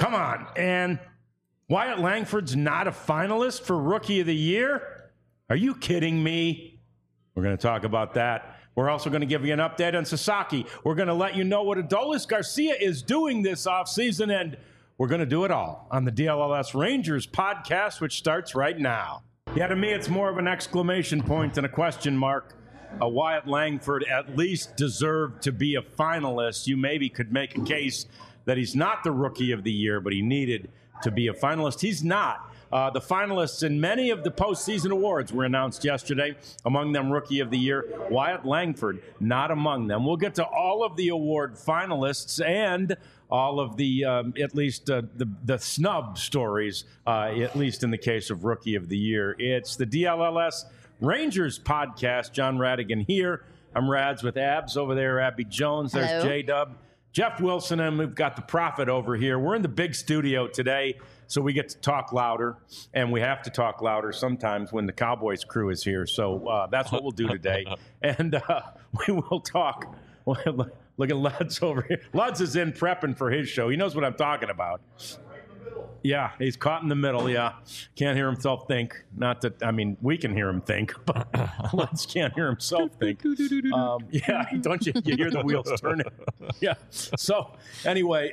Come on. And Wyatt Langford's not a finalist for Rookie of the Year? Are you kidding me? We're going to talk about that. We're also going to give you an update on Sasaki. We're going to let you know what Adolis Garcia is doing this offseason, and we're going to do it all on the DLLS Rangers podcast, which starts right now. Yeah, to me, it's more of an exclamation point than a question mark. Wyatt Langford at least deserved to be a finalist. You maybe could make a case that he's not the Rookie of the Year, but he needed to be a finalist. He's not. The finalists in many of the postseason awards were announced yesterday. Among them, Rookie of the Year, Wyatt Langford, not among them. We'll get to all of the award finalists and all of the, at least the snub stories, at least in the case of Rookie of the Year. It's the DLLS Rangers podcast. John Radigan here. I'm Rads with Abs over there. Abby Jones. There's Hello. J-Dub. Jeff Wilson, and we've got the Prophet over here. We're in the big studio today, so we get to talk louder, and we have to talk louder sometimes when the Cowboys crew is here. So that's what we'll do today. And we will talk. Look at Luds over here. Luds is in prepping for his show. He knows what I'm talking about. Yeah, he's caught in the middle, yeah. Can't hear himself think. Not that, I mean, we can hear him think, but Lutz can't hear himself think. Yeah, don't you hear the wheels turning? Yeah. So, anyway,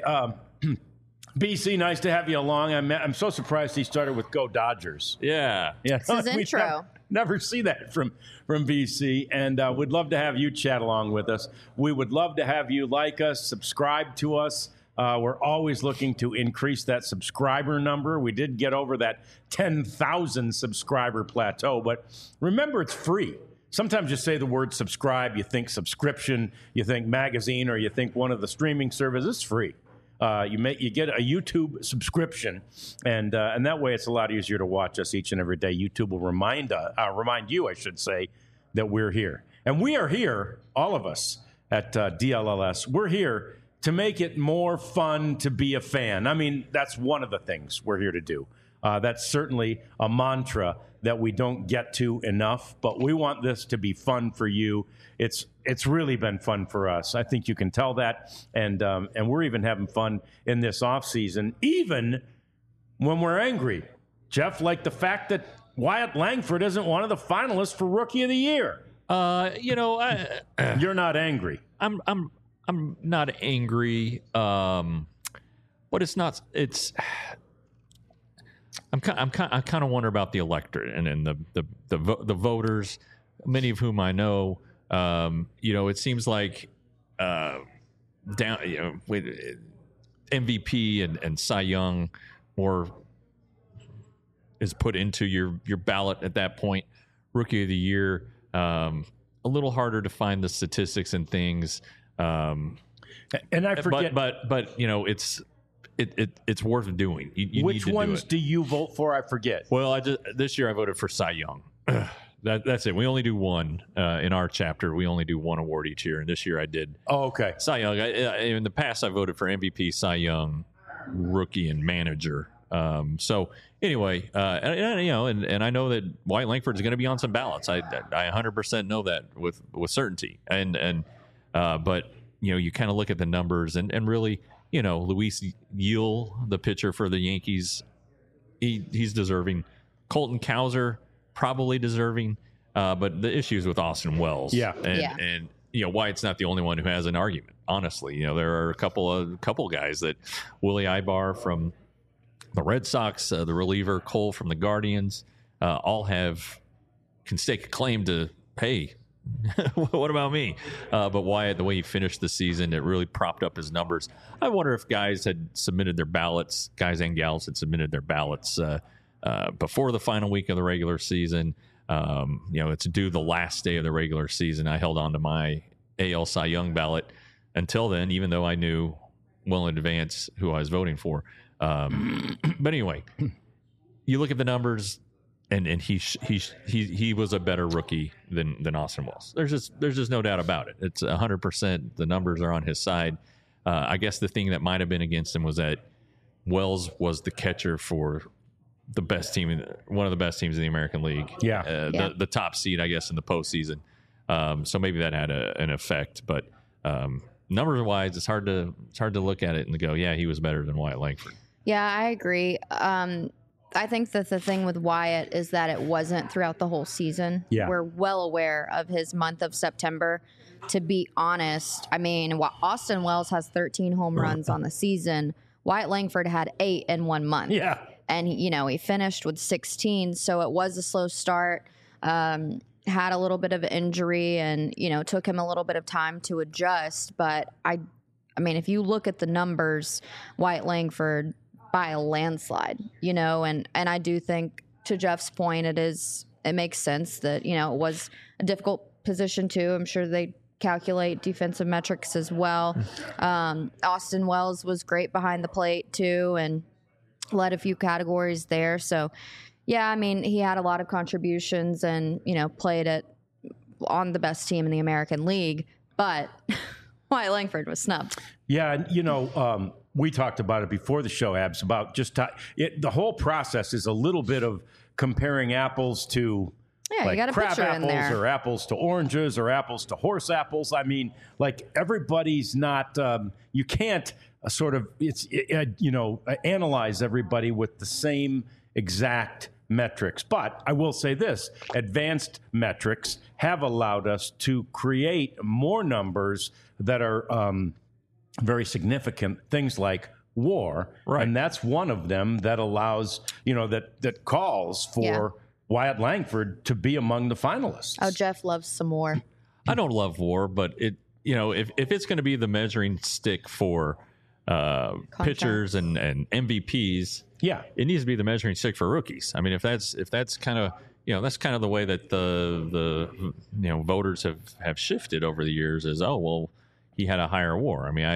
BC, nice to have you along. I'm so surprised he started with Go Dodgers. Yeah. It's his intro. Never see that from BC, and we'd love to have you chat along with us. We would love to have you like us, subscribe to us. We're always looking to increase that subscriber number. We did get over that 10,000 subscriber plateau, but remember, it's free. Sometimes you say the word subscribe, you think subscription, you think magazine, or you think one of the streaming services. It's free. You get a YouTube subscription, and that way it's a lot easier to watch us each and every day. YouTube will remind you, I should say, that we're here. And we are here, all of us at DLLS. We're here to make it more fun to be a fan. I mean, that's one of the things we're here to do. That's certainly a mantra that we don't get to enough, but we want this to be fun for you. It's really been fun for us. I think you can tell that, and we're even having fun in this offseason, even when we're angry. Jeff, like the fact that Wyatt Langford isn't one of the finalists for Rookie of the Year. You're not angry. I'm not angry, but it's not. I'm kind of wonder about the electorate and the voters, many of whom I know. It seems like with MVP and Cy Young more is put into your ballot at that point. Rookie of the Year, a little harder to find the statistics and things. And I forget, but it's worth doing. You which need to ones do do you vote for? I forget. Well, this year I voted for Cy Young. That's it. We only do one in our chapter. We only do one award each year, and this year I did. Oh, okay. Cy Young. In the past, I voted for MVP, Cy Young, Rookie, and Manager. So anyway, and I know that Wyatt Langford is going to be on some ballots. I 100% know that with certainty. But you kind of look at the numbers and really, Luis Yule, the pitcher for the Yankees, he's deserving. Colton Cowser, probably deserving. But the issues with Austin Wells. Yeah. And Wyatt's not the only one who has an argument. Honestly, there are a couple guys that Willie Ibar from the Red Sox, the reliever Cole from the Guardians, all can stake a claim to, hey, what about me? But Wyatt, the way he finished the season, it really propped up his numbers. I wonder if guys had submitted their ballots, guys and gals had submitted their ballots before the final week of the regular season. It's due the last day of the regular season. I held on to my AL Cy Young ballot until then, even though I knew well in advance who I was voting for. But anyway, you look at the numbers, and he was a better rookie than Austin Wells. There's just no doubt about it. It's 100%. The numbers are on his side. I guess the thing that might have been against him was that Wells was the catcher for the best team, one of the best teams in the American League. Yeah. The top seed, I guess, in the postseason. So maybe that had an effect, but numbers wise, it's hard to look at it and go, yeah, he was better than Wyatt Langford. Yeah, I agree. I think that the thing with Wyatt is that it wasn't throughout the whole season. Yeah. We're well aware of his month of September. To be honest, I mean, Austin Wells has 13 home runs on the season. Wyatt Langford had 8 in 1 month. Yeah. And, he finished with 16, so it was a slow start. Had a little bit of injury and, took him a little bit of time to adjust. But, I mean, if you look at the numbers, Wyatt Langford by a landslide, and I do think, to Jeff's point, it makes sense that, it was a difficult position too. I'm sure they calculate defensive metrics as well. Austin Wells was great behind the plate too and led a few categories there. So, yeah, I mean, he had a lot of contributions and, played on the best team in the American League, but Wyatt Langford was snubbed. Yeah, and we talked about it before the show, Abs, about just the whole process is a little bit of comparing apples to you got a crab picture in apples there. or apples to oranges or apples to horse apples. I mean, everybody's not. You can't analyze everybody with the same exact metrics. But I will say this: advanced metrics have allowed us to create more numbers that are very significant. Things like WAR, right? And that's one of them that allows that calls for Wyatt Langford to be among the finalists. Oh, Jeff loves some more. I don't love WAR, but if it's going to be the measuring stick for pitchers and MVPs, it needs to be the measuring stick for rookies. I mean, if that's kind of that's kind of the way that the voters have shifted over the years. Is he had a higher WAR. I mean,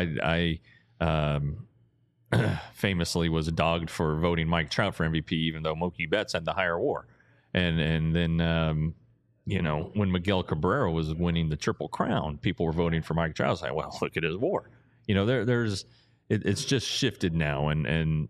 I famously was dogged for voting Mike Trout for MVP, even though Mookie Betts had the higher WAR. And then when Miguel Cabrera was winning the Triple Crown, people were voting for Mike Trout. I was like, well, look at his WAR. It's just shifted now, and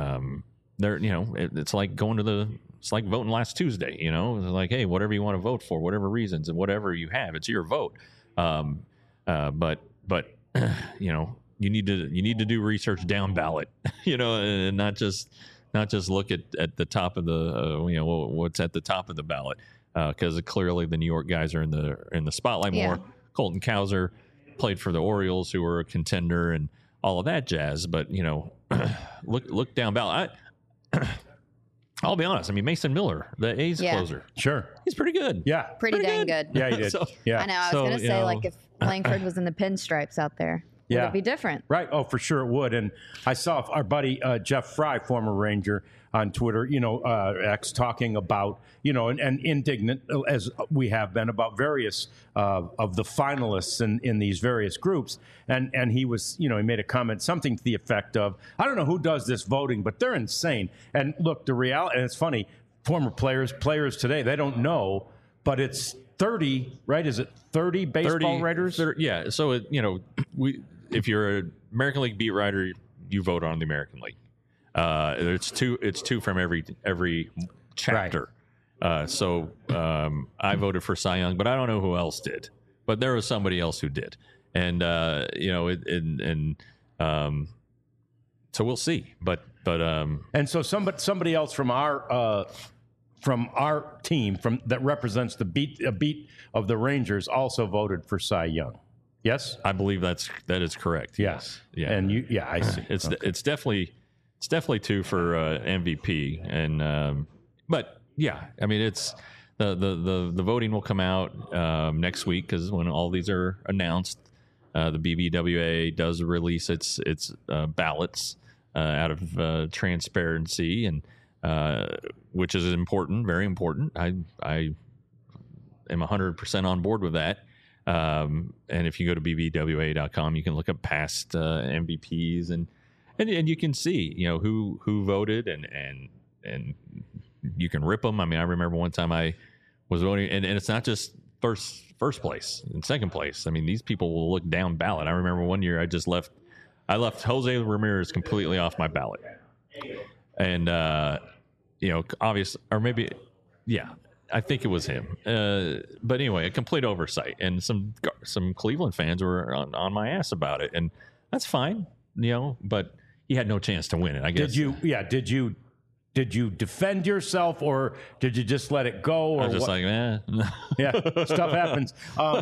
it's like it's like voting last Tuesday. It's like, hey, whatever you want to vote for, whatever reasons and whatever you have, it's your vote. But you need to do research down ballot, and not just look at the top of the what's at the top of the ballot, because clearly the New York guys are in the spotlight more. Colton Cowser played for the Orioles, who were a contender, and all of that jazz. But look down ballot. I'll be honest. I mean, Mason Miller, the A's closer, sure, he's pretty good. Yeah, pretty dang good. Yeah, he did. I know. I was going to say, if Langford was in the pinstripes out there, would it be different? Right. Oh, for sure it would. And I saw our buddy Jeff Fry, former Ranger, on Twitter, X, talking about, and indignant as we have been about various of the finalists in these various groups. And he was, he made a comment, something to the effect of, I don't know who does this voting, but they're insane. And look, the reality, and it's funny, former players today, they don't know, but it's 30, right? Is it 30 baseball writers? 30, yeah. So, if you're an American League beat writer, you vote on the American League. It's two from every chapter. Right. So I voted for Cy Young, but I don't know who else did. But there was somebody else who did, and so we'll see. But and so somebody else from our team that represents the beat of the Rangers also voted for Cy Young. Yes, I believe that is correct. Yes. Yeah. And I see. It's definitely two for MVP, and but yeah, I mean, it's the voting will come out next week, because when all these are announced, the BBWA does release its ballots out of transparency, and which is important, very important. I am 100% on board with that. And if you go to bbwa.com, you can look up past MVPs and you can see who voted, and you can rip them. I mean, I remember one time I was voting, and it's not just first place and second place. I mean, these people will look down ballot. I remember one year I left Jose Ramirez completely off my ballot, and obvious, or maybe I think it was him. But anyway, a complete oversight, and some Cleveland fans were on my ass about it, and that's fine, but he had no chance to win it. I guess. Did you defend yourself, or did you just let it go? Or I was just what? like, Yeah, stuff happens.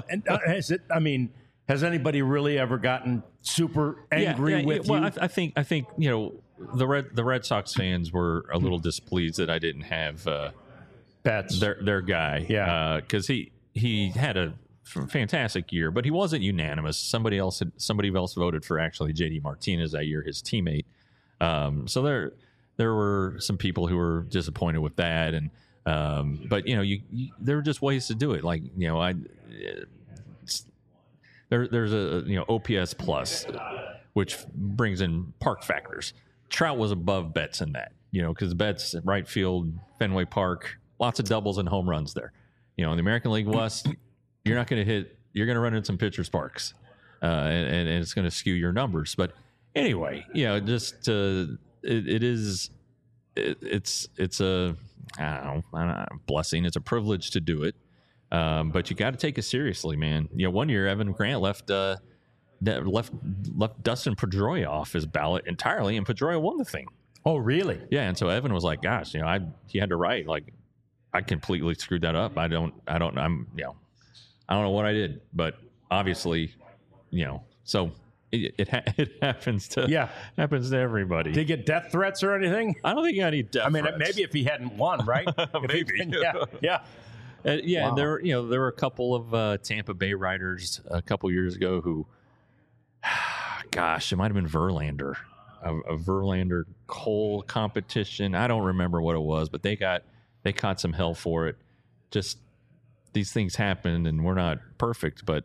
Has anybody really ever gotten super angry with you? Well, I think the Red Sox fans were a little displeased that I didn't have Betts, their guy. Yeah, because he had a fantastic year, but he wasn't unanimous. Somebody else voted for actually JD Martinez that year, his teammate. So there were some people who were disappointed with that, and but there were just ways to do it. Like there's a OPS plus, which brings in park factors. Trout was above Betts in that, because Betts right field, Fenway Park, lots of doubles and home runs there. In the American League West, you're not going to hit. You're going to run in some pitcher sparks, and it's going to skew your numbers. But anyway, just it's a I don't know, blessing. It's a privilege to do it. But you got to take it seriously, man. One year Evan Grant left Dustin Pedroia off his ballot entirely, and Pedroia won the thing. Oh, really? Yeah, and so Evan was like, "Gosh, he had to write like I completely screwed that up. I don't know what I did, but obviously, so." It happens to happens to everybody. Did he get death threats or anything? I don't think he got any death threats. Maybe if he hadn't won, right? Maybe. Yeah. Wow. There were a couple of Tampa Bay writers a couple years ago who, gosh, it might have been Verlander, a Verlander Cole competition. I don't remember what it was, but they caught some hell for it. Just these things happen, and we're not perfect, but.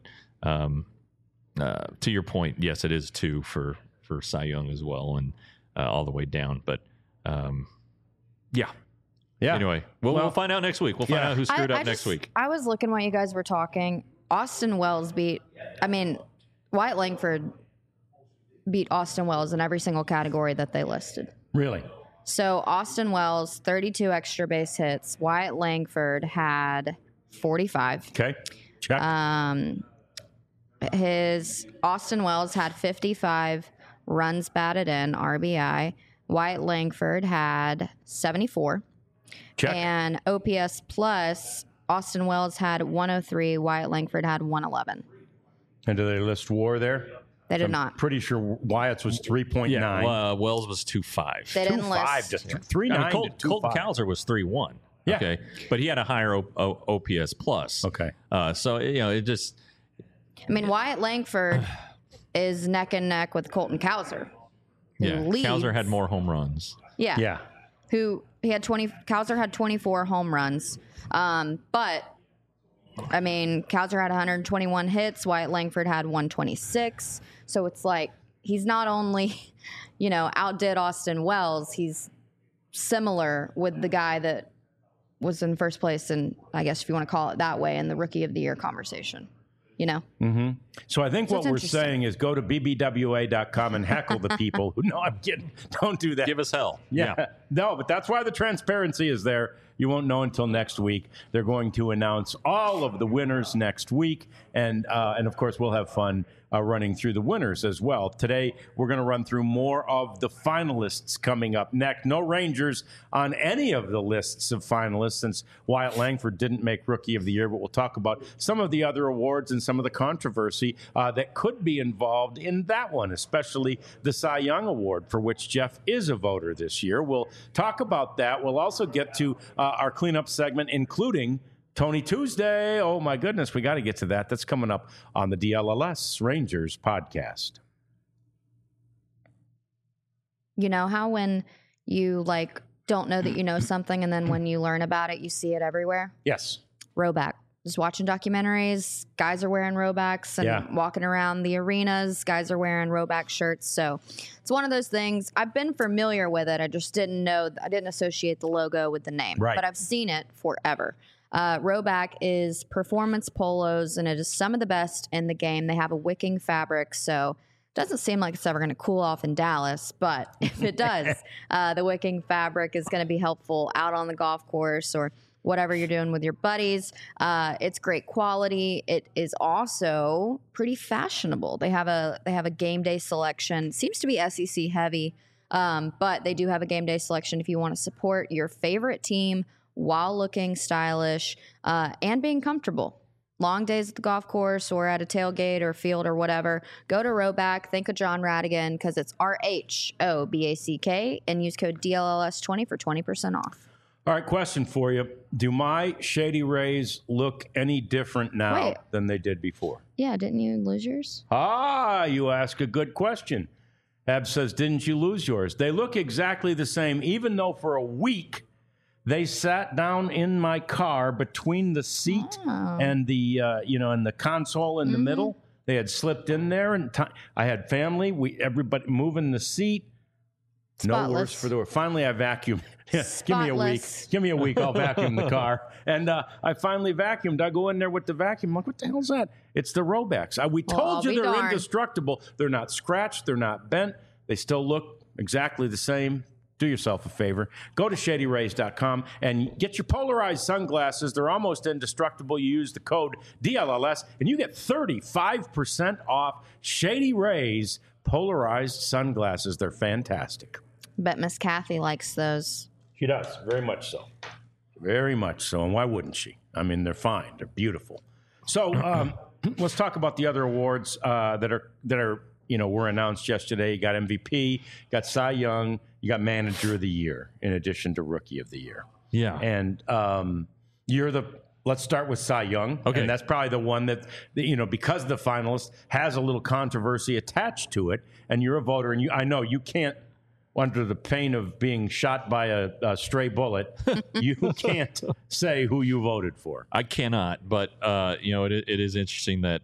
To your point, yes, it is 2 for Cy Young as well, and all the way down. But yeah. Anyway, we'll find out next week. We'll find out who screwed up next week. I was looking while you guys were talking. Austin Wells Wyatt Langford beat Austin Wells in every single category that they listed. Really? So Austin Wells, 32 extra base hits. Wyatt Langford had 45. Okay. Check. His Austin Wells had 55 runs batted in, RBI. Wyatt Langford had 74. Check. And OPS plus, Austin Wells had 103. Wyatt Langford had 111. And do they list WAR there? They did not. Pretty sure Wyatt's was 3.9. Yeah, Wells was 2.5. They didn't list. 3.9 to 2.5. Colton Cowser was 3.1. Yeah. Okay, but he had a higher OPS plus. Okay. So it just. Wyatt Langford is neck and neck with Colton Cowser. Yeah, Cowser had more home runs. Yeah. Yeah. Cowser had 24 home runs. But Cowser had 121 hits. Wyatt Langford had 126. So it's like he's not only, outdid Austin Wells, he's similar with the guy that was in first place, and I guess if you want to call it that way, in the Rookie of the Year conversation. Mm-hmm. So I think what we're saying is go to bbwa.com and heckle the people who, no, I'm kidding. Don't do that. Give us hell. Yeah. No, but that's why the transparency is there. You won't know until next week. They're going to announce all of the winners next week. And of course, we'll have fun running through the winners as well. Today, we're going to run through more of the finalists coming up next. No Rangers on any of the lists of finalists since Wyatt Langford didn't make Rookie of the Year, but we'll talk about some of the other awards and some of the controversy that could be involved in that one, especially the Cy Young Award, for which Jeff is a voter this year. We'll talk about that. We'll also get to our cleanup segment, including Tony Tuesday. Oh, my goodness. We got to get to that. That's coming up on the DLLS Rangers podcast. You know how when you don't know that you know something, and then when you learn about it, you see it everywhere? Yes. Rhoback. Just watching documentaries, guys are wearing Rhobacks and walking around the arenas. Guys are wearing Rhoback shirts. So it's one of those things. I've been familiar with it. I just didn't know. I didn't associate the logo with the name. Right. But I've seen it forever. Rhoback is performance polos, and it is some of the best in the game. They have a wicking fabric, so it doesn't seem like it's ever going to cool off in Dallas. But if it does, the wicking fabric is going to be helpful out on the golf course or whatever you're doing with your buddies. It's great quality. It is also pretty fashionable. They have a game day selection. Seems to be SEC heavy But they do have a game day selection if you want to support your favorite team while looking stylish and being comfortable. Long days at the golf course or at a tailgate or field or whatever, go to Rhoback. Think of John Radigan because it's RHOBACK and use code DLLS20 for 20% off. All right, question for you. Do my Shady Rays look any different now than they did before? Yeah, didn't you lose yours? You ask a good question. Eb says, didn't you lose yours? They look exactly the same, even though for a week they sat down in my car between the seat and the, and the console in the middle. They had slipped in there, and I had family. Everybody moving the seat. Spotless. No worse for the wear. Finally, I vacuumed. Give me a week. Give me a week. I'll vacuum the car. And I finally vacuumed. I go in there with the vacuum. I'm like, what the hell's that? It's the Robacks. We told you they're indestructible. They're not scratched. They're not bent. They still look exactly the same. Do yourself a favor. Go to ShadyRays.com and get your polarized sunglasses. They're almost indestructible. You use the code DLLS, and you get 35% off Shady Rays polarized sunglasses. They're fantastic. Bet Miss Kathy likes those. She does, very much so. Very much so. And why wouldn't she? I mean, they're fine. They're beautiful. So let's talk about the other awards that are were announced yesterday. You got MVP, you got Cy Young, you got Manager of the Year, in addition to Rookie of the Year. Yeah. And let's start with Cy Young. Okay. And that's probably the one that, because the finalist has a little controversy attached to it, and you're a voter, and I know you can't, under the pain of being shot by a stray bullet, you can't say who you voted for. I cannot, but it is interesting that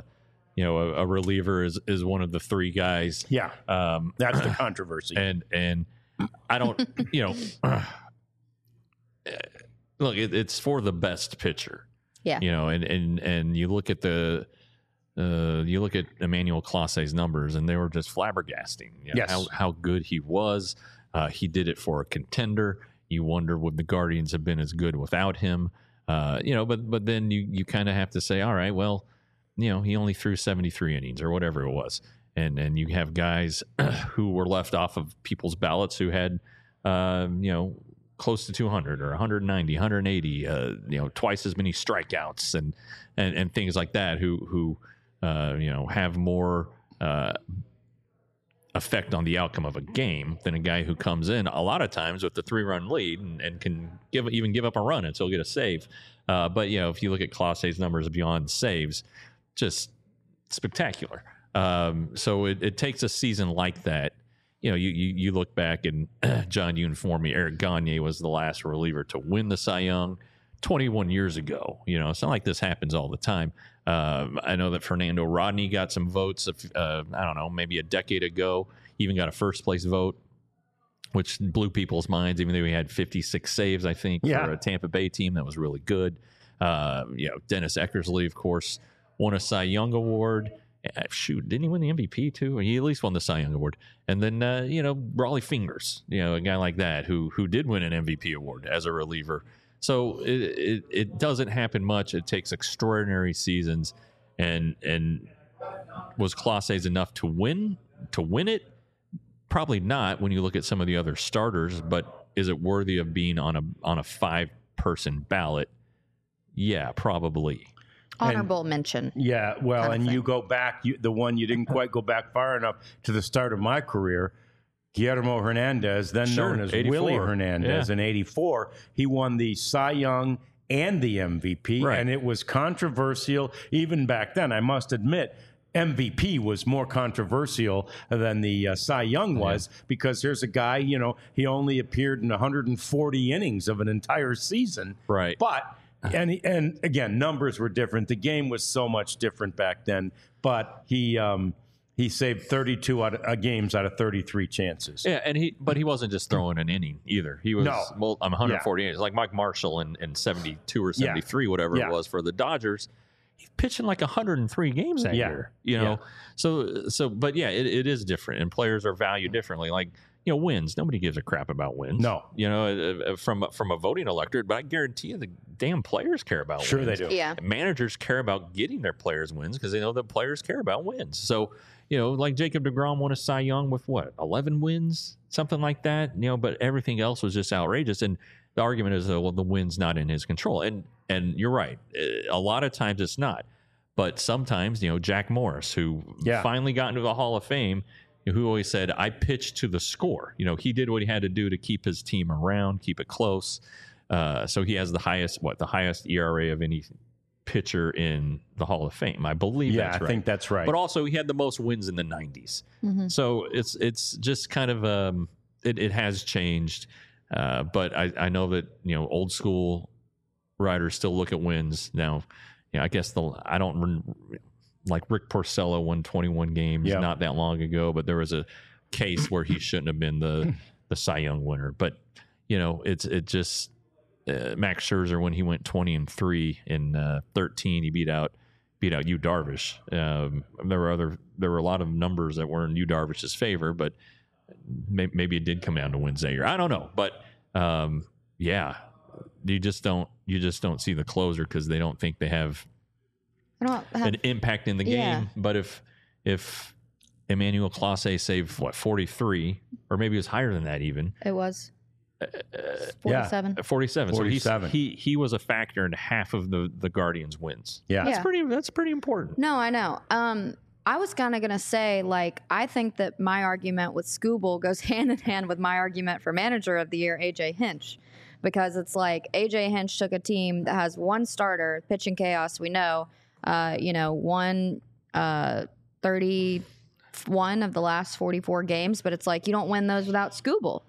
a reliever is one of the three guys. Yeah, that's the controversy. And I don't, look, it's for the best pitcher. Yeah, and you look at Emmanuel Clase's numbers, and they were just flabbergasting. Yes. How good he was. He did it for a contender. You wonder would the Guardians have been as good without him? But then you kind of have to say, all right, well, he only threw 73 innings or whatever it was, and you have guys who were left off of people's ballots who had close to 200 or 190, 180, twice as many strikeouts and things like that, who have more effect on the outcome of a game than a guy who comes in a lot of times with the 3-run lead and can give up a run and still get a save. But if you look at Clase's numbers beyond saves, just spectacular. So it takes a season like that. You look back and John, you informed me Eric Gagne was the last reliever to win the Cy Young 21 years ago. It's not like this happens all the time. I know that Fernando Rodney got some votes, I don't know, maybe a decade ago. He even got a first place vote, which blew people's minds, even though he had 56 saves, I think, for a Tampa Bay team that was really good. Dennis Eckersley, of course, won a Cy Young Award. Didn't he win the MVP too? He at least won the Cy Young Award. And then, Raleigh Fingers, a guy like that who did win an MVP award as a reliever. So it doesn't happen much. It takes extraordinary seasons, and was Clase's enough to win it? Probably not when you look at some of the other starters. But is it worthy of being on a 5-person ballot? Yeah, probably. Honorable mention. Yeah, well, and you go back, the one you didn't quite go back far enough to the start of my career. Guillermo Hernandez, then known as 84. Willie Hernandez, in 84. He won the Cy Young and the MVP, and it was controversial even back then. I must admit, MVP was more controversial than the Cy Young was, because here's a guy, he only appeared in 140 innings of an entire season. Right. But, and again, numbers were different. The game was so much different back then, but he saved 32 games out of 33 chances. Yeah, and he wasn't just throwing an inning either. He was 140 innings, like Mike Marshall in 72 or 73, whatever it was for the Dodgers. He's pitching like 103 games that year. So but it is different, and players are valued differently. Like wins. Nobody gives a crap about wins. No. From a voting electorate, but I guarantee you the damn players care about Sure wins. they do. Yeah. Managers care about getting their players wins because they know that players care about wins. So, like Jacob deGrom won a Cy Young with 11 wins, something like that. But everything else was just outrageous. And the argument is, well, the win's not in his control. And you're right. A lot of times it's not. But sometimes, Jack Morris, who finally got into the Hall of Fame, who always said, I pitched to the score. He did what he had to do to keep his team around, keep it close. So he has the highest ERA of any pitcher in the Hall of Fame. I believe that's right. I think that's right. But also he had the most wins in the 90s. Mm-hmm. So it's just kind of, it has changed. But I know that, old school writers still look at wins. Now, I guess like Rick Porcello won 21 games not that long ago, but there was a case where he shouldn't have been the Cy Young winner. But it just Max Scherzer, when he went 20-3 in 13, he beat out Yu Darvish. There were a lot of numbers that were in Yu Darvish's favor, but maybe it did come down to wins that year. I don't know, but you just don't see the closer because they don't think they have an impact in the game. But if Emmanuel Clase saved 43, or maybe it was higher than that even. It was 47. 47. 47. So he was a factor in half of the Guardians' wins. Yeah. That's pretty important. No, I know. I was kind of going to say, I think that my argument with Skubal goes hand in hand with my argument for Manager of the Year, A.J. Hinch. Because it's A.J. Hinch took a team that has one starter, pitching chaos, we know, won 31 of the last 44 games, but it's you don't win those without Skubal,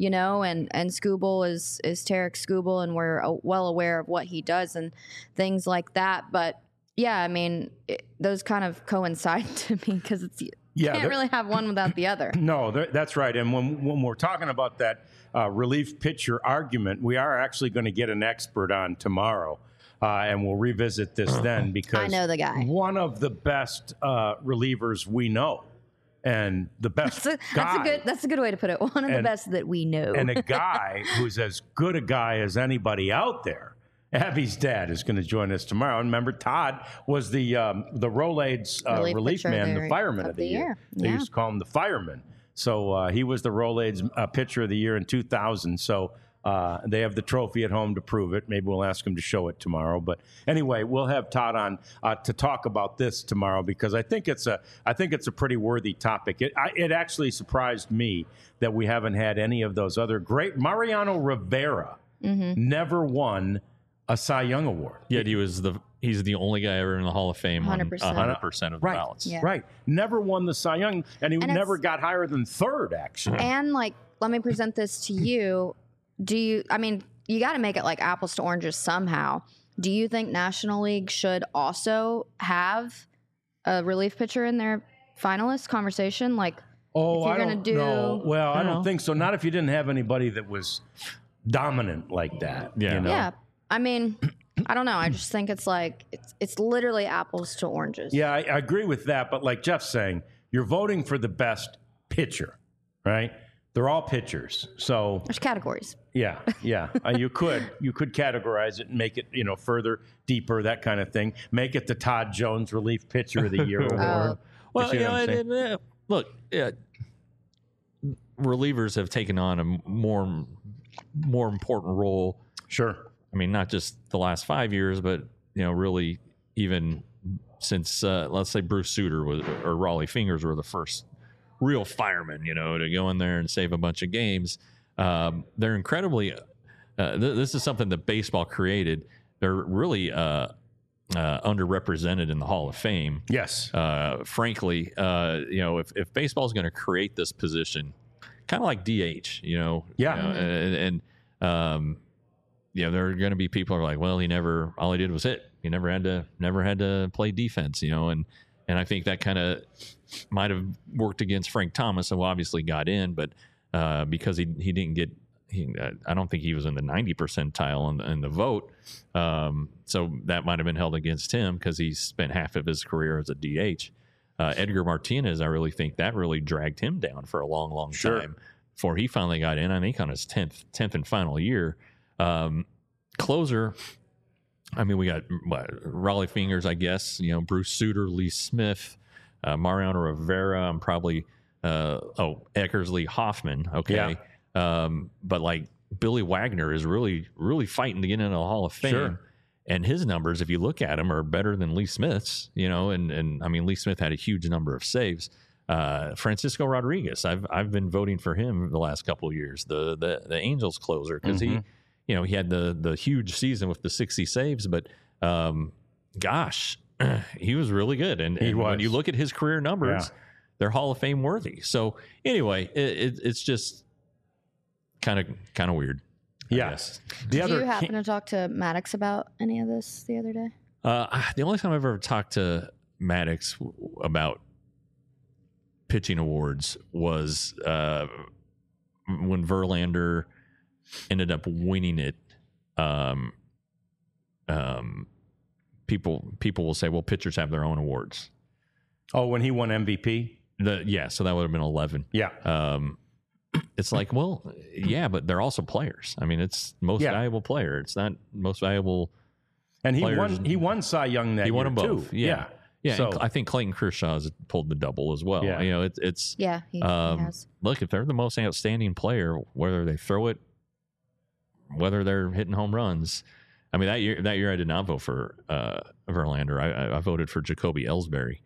and Skubal is Tarek Skubal, and we're well aware of what he does and things like that. But yeah, I mean, those kind of coincide to me because you can't really have one without the other. No, that's right. And when we're talking about that relief pitcher argument, we are actually going to get an expert on tomorrow. And we'll revisit this then because I know the guy. One of the best relievers we know, and the best that's a good way to put it. One of the best that we know, and a guy who's as good a guy as anybody out there. Abby's dad is going to join us tomorrow. And remember, Todd was the Rolaids relief man, the fireman of the year. They used to call him the fireman. So he was the Rolaids pitcher of the year in 2000. So they have the trophy at home to prove it. Maybe we'll ask him to show it tomorrow. But anyway, we'll have Todd on to talk about this tomorrow because I think it's a pretty worthy topic. It actually surprised me that we haven't had any of those other great. Mariano Rivera never won a Cy Young award. Yet he's the only guy ever in the Hall of Fame on 100% of the ballots. Yeah. Right. Never won the Cy Young, and he never got higher than third, actually. And let me present this to you. You got to make it apples to oranges somehow. Do you think National League should also have a relief pitcher in their finalist conversation? I don't know. Well, I don't think so. Not if you didn't have anybody that was dominant like that. Yeah. Yeah. I mean, I don't know. I just think it's it's literally apples to oranges. Yeah, I agree with that. But like Jeff's saying, you're voting for the best pitcher, right? They're all pitchers. So there's categories. Yeah. You could categorize it and make it, further, deeper, that kind of thing. Make it the Todd Jones Relief Pitcher of the Year award. Well, look, relievers have taken on a more important role. Sure. I mean, not just the last 5 years, but really even since let's say Bruce Sutter or Raleigh Fingers were the first real firemen, to go in there and save a bunch of games. They're incredibly. This is something that baseball created. They're really underrepresented in the Hall of Fame. Yes. Frankly, if baseball is going to create this position, kind of like DH, there are going to be people who are like, well, all he did was hit. He never had to play defense, and I think that kind of might have worked against Frank Thomas, who obviously got in, but because he didn't get, I don't think he was in the 90 percentile in the vote. So that might have been held against him because he spent half of his career as a DH. Edgar Martinez, I really think that really dragged him down for a long, long time. before he finally got in. I think on his 10th and final year. Closer, I mean, we got Raleigh Fingers, I guess, Bruce Sutter, Lee Smith, Mariano Rivera. I'm probably, Eckersley Hoffman. Okay. Yeah. But like Billy Wagner is really, really fighting to get into the Hall of Fame. Sure. And his numbers, if you look at them, are better than Lee Smith's, and I mean, Lee Smith had a huge number of saves. Francisco Rodriguez, I've been voting for him the last couple of years, the Angels closer, because he had the huge season with the 60 saves, but gosh, he was really good. And when you look at his career numbers, they're Hall of Fame worthy. So anyway, it's just kind of weird. Yes. Did you happen to talk to Maddox about any of this the other day? The only time I've ever talked to Maddox about pitching awards was when Verlander ended up winning it. People will say, well, pitchers have their own awards. Oh, when he won MVP? So that would have been 11. Yeah. It's like, well, yeah, but they're also players. I mean, it's most valuable player. It's not most valuable. And he won Cy Young that year. He won them both. Too. Yeah. Yeah. So, I think Clayton Kershaw has pulled the double as well. Yeah. It's he has. Look, if they're the most outstanding player, whether they throw it, whether they're hitting home runs. I mean, that year I did not vote for Verlander. I voted for Jacoby Ellsbury.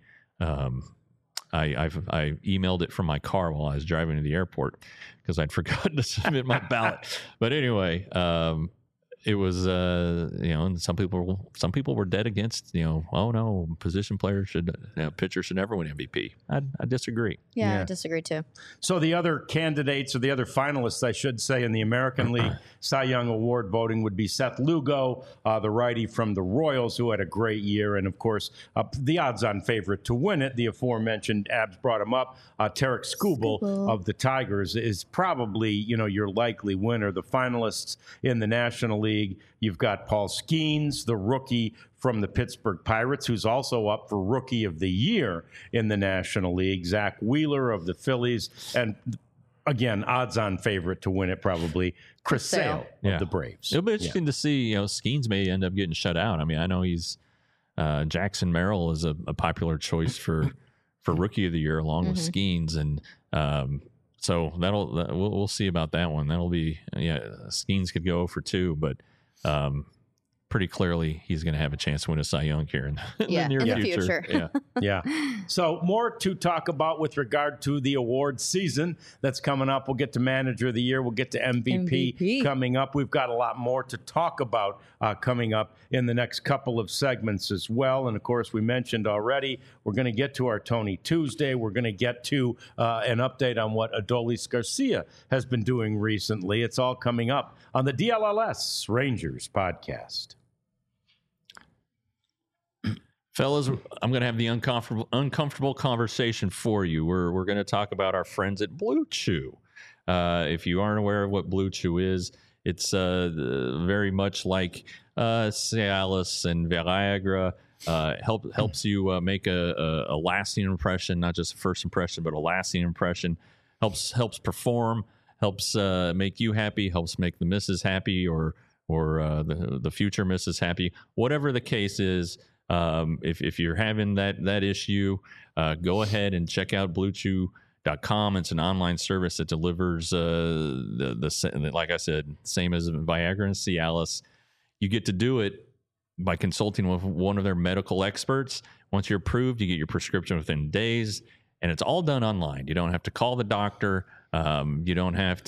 I emailed it from my car while I was driving to the airport because I'd forgotten to submit my ballot. But anyway, it was and some people were dead against oh no, position players pitchers should never win MVP. I disagree. Yeah, I disagree too. So the other candidates or the other finalists, I should say, in the American League Cy Young Award voting would be Seth Lugo, the righty from the Royals, who had a great year, and of course the odds-on favorite to win it, the aforementioned Abs brought him up, Tarek Skubal of the Tigers is probably your likely winner. The finalists in the National League, you've got Paul Skeens, the rookie from the Pittsburgh Pirates, who's also up for Rookie of the Year in the National League. Zach Wheeler of the Phillies, and again, odds-on favorite to win it probably Chris Sale of the Braves. It'll be interesting to see. Skeens may end up getting shut out. I mean, I know he's Jackson Merrill is a popular choice for Rookie of the Year along with Skeens, and so we'll see about that one. That'll be Skeens could go for 2, but pretty clearly he's going to have a chance to win a Cy Young here in the near future. Yeah. So more to talk about with regard to the award season that's coming up. We'll get to Manager of the Year. We'll get to MVP coming up. We've got a lot more to talk about coming up in the next couple of segments as well. And, of course, we mentioned already we're going to get to our Tony Tuesday. We're going to get to an update on what Adolis Garcia has been doing recently. It's all coming up on the DLLS Rangers podcast. Fellas, I'm going to have the uncomfortable conversation for you. We're going to talk about our friends at Blue Chew. If you aren't aware of what Blue Chew is, it's very much like Cialis and Viagra. Helps you make a lasting impression, not just a first impression, but a lasting impression. Helps perform. Helps make you happy. Helps make the missus happy, or the future missus happy. Whatever the case is. If you're having that issue, go ahead and check out BlueChew.com. It's an online service that delivers like I said, same as Viagra and Cialis. You get to do it by consulting with one of their medical experts. Once you're approved, you get your prescription within days, and it's all done online. You don't have to call the doctor. You don't have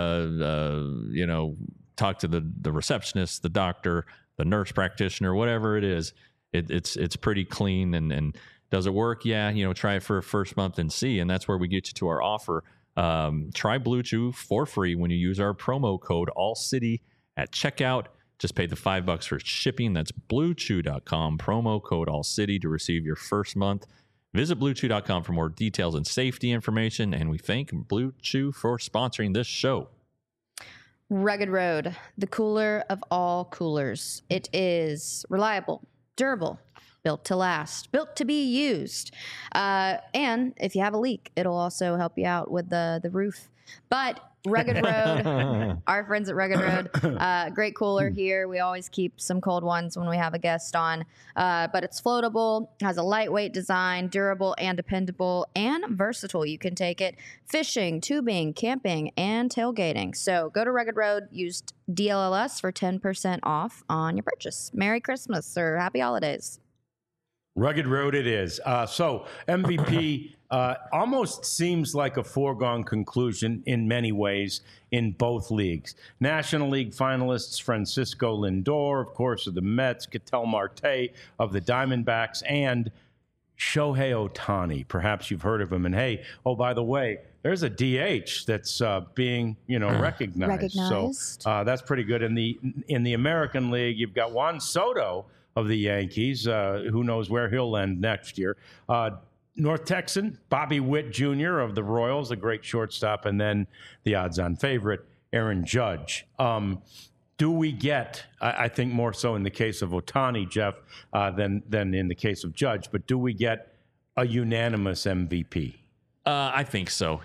to talk to the receptionist, the doctor, the nurse practitioner, whatever it is. It's pretty clean, and does it work? Yeah, try it for a first month and see, and that's where we get you to our offer. Try Blue Chew for free when you use our promo code ALLCITY at checkout. Just pay the $5 for shipping. That's BlueChew.com, promo code ALLCITY to receive your first month. Visit BlueChew.com for more details and safety information, and we thank Blue Chew for sponsoring this show. Rugged Road, the cooler of all coolers. It is reliable, durable, built to last, built to be used. And if you have a leak, it'll also help you out with the roof But Rugged Road, our friends at Rugged Road, great cooler here. We always keep some cold ones when we have a guest on. But it's floatable, has a lightweight design, durable and dependable, and versatile. You can take it fishing, tubing, camping, and tailgating. So go to Rugged Road, use DLLS for 10% off on your purchase. Merry Christmas or Happy Holidays. Rugged Road it is. So MVP almost seems like a foregone conclusion in many ways in both leagues. National League finalists Francisco Lindor, of course, of the Mets, Ketel Marte of the Diamondbacks, and Shohei Ohtani. Perhaps you've heard of him. And hey, oh, by the way, there's a DH that's being, recognized. So that's pretty good. In the American League, you've got Juan Soto of the Yankees. Who knows where he'll end next year. North Texan, Bobby Witt Jr. of the Royals, a great shortstop, and then the odds-on favorite, Aaron Judge. Do we get, I think more so in the case of Ohtani, Jeff, than in the case of Judge, but do we get a unanimous MVP? I think so.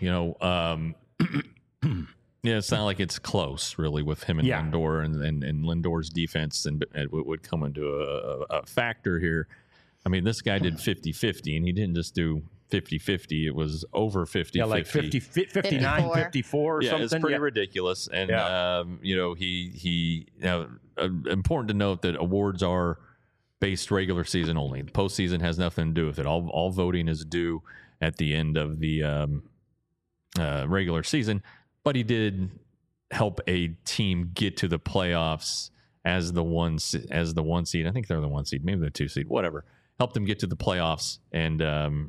It's not like it's close, really, with him and Lindor, and Lindor's defense and would come into a factor here. I mean, this guy did 50-50, and he didn't just do 50-50. It was over 50-50. Yeah, like 59, 54 or something. It's pretty ridiculous. And, important to note that awards are based regular season only. The postseason has nothing to do with it. All voting is due at the end of the regular season. But he did help a team get to the playoffs as the one seed. I think they're the 1 seed, maybe the 2 seed, whatever. Helped them get to the playoffs, and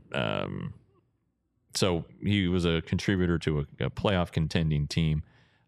so he was a contributor to a playoff contending team.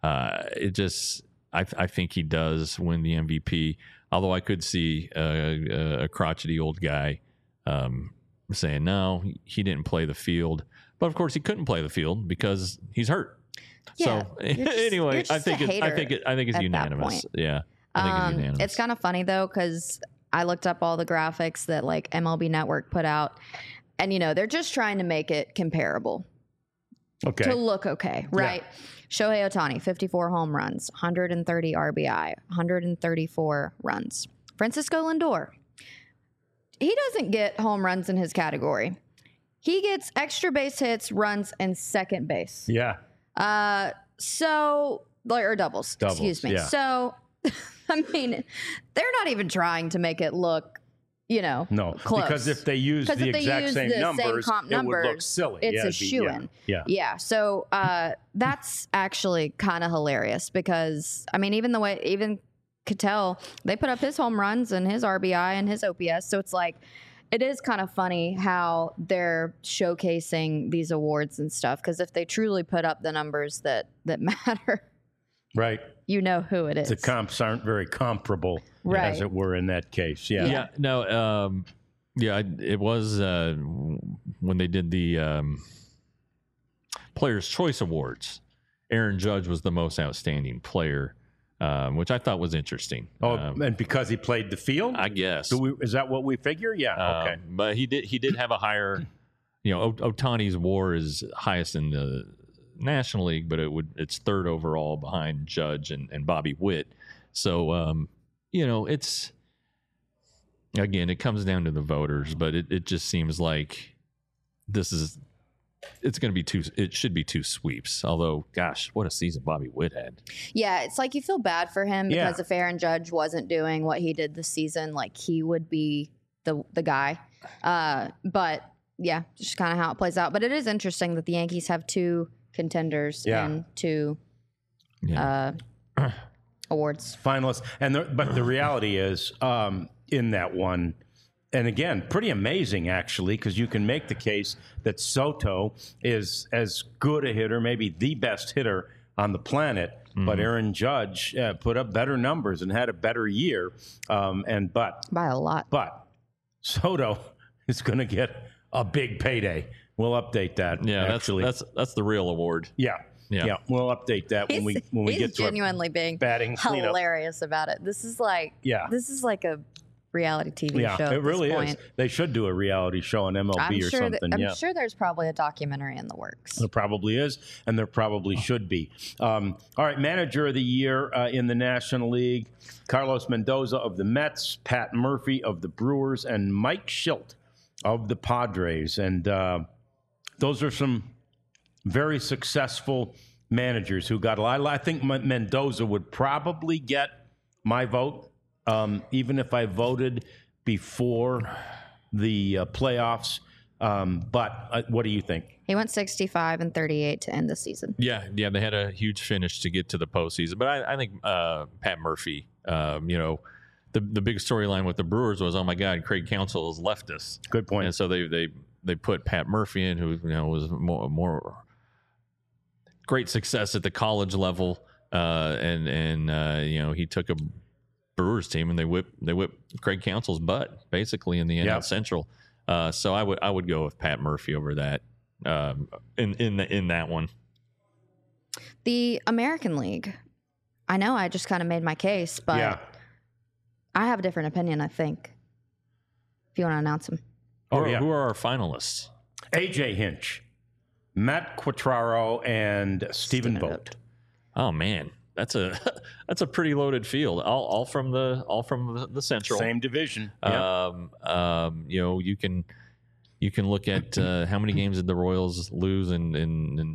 I think he does win the MVP. Although I could see a crotchety old guy saying no, he didn't play the field. But of course, he couldn't play the field because he's hurt. Yeah, so anyway, I think it's unanimous. Yeah, I think it's unanimous. It's kind of funny though, because I looked up all the graphics that like MLB Network put out, and they're just trying to make it comparable. Okay. To look okay, right? Yeah. Shohei Ohtani, 54 home runs, 130 RBI, 134 runs. Francisco Lindor, he doesn't get home runs in his category. He gets extra base hits, runs, and second base. Yeah. Or doubles. Excuse me. Yeah. So, I mean, they're not even trying to make it look, no, close. Because if they use the exact same numbers, it would look silly. It's a shoo-in. Yeah. So, that's actually kind of hilarious because, I mean, even Ketel, they put up his home runs and his RBI and his OPS. So it's like, it is kind of funny how they're showcasing these awards and stuff, because if they truly put up the numbers that matter, right, who it is. The comps aren't very comparable, right, as it were, in that case. Yeah. No. It was when they did the Players' Choice Awards. Aaron Judge was the most outstanding player. Which I thought was interesting. And because he played the field, I guess. Is that what we figure? Yeah. Okay. But he did have a higher. Ohtani's WAR is highest in the National League, but it's third overall behind Judge and Bobby Witt. So it's again, it comes down to the voters, but it just seems like it's going to be it should be 2 sweeps. Although, gosh, what a season Bobby Witt had. Yeah, it's like you feel bad for him because if Aaron Judge wasn't doing what he did this season, like he would be the guy. But yeah, just kind of how it plays out. But it is interesting that the Yankees have 2 contenders and 2 awards finalists. But the reality is, in that one. And again, pretty amazing, actually, because you can make the case that Soto is as good a hitter, maybe the best hitter on the planet, but Aaron Judge put up better numbers and had a better year. But by a lot. But Soto is going to get a big payday. We'll update that. Yeah, actually. That's the real award. Yeah, we'll update that when we get to genuinely being batting hilarious about it. This is like a reality TV Yeah, show. it at really this is. point. They should do a reality show on MLB or something. I'm sure there's probably a documentary in the works. There probably is, and there probably should be. All right, manager of the year in the National League, Carlos Mendoza of the Mets, Pat Murphy of the Brewers, and Mike Shildt of the Padres. And those are some very successful managers who got a lot. I think Mendoza would probably get my vote, even if I voted before the playoffs. But what do you think? He went 65 and 38 to end the season. Yeah, they had a huge finish to get to the postseason. But I think Pat Murphy, the big storyline with the Brewers was, oh my God, Craig Counsell has left us. Good point. And so they put Pat Murphy in, who was more great success at the college level, and he took a Brewers team and they whipped Craig Counsell's butt basically in the NL Central. So I would go with Pat Murphy over that in that one. The American League. I know I just kind of made my case, but I have a different opinion, I think. If you want to announce them. Who are our finalists? AJ Hinch, Matt Quatraro, and Stephen Vogt. Oh man, that's a pretty loaded field. All from the Central. Same division. You can look at how many games did the Royals lose in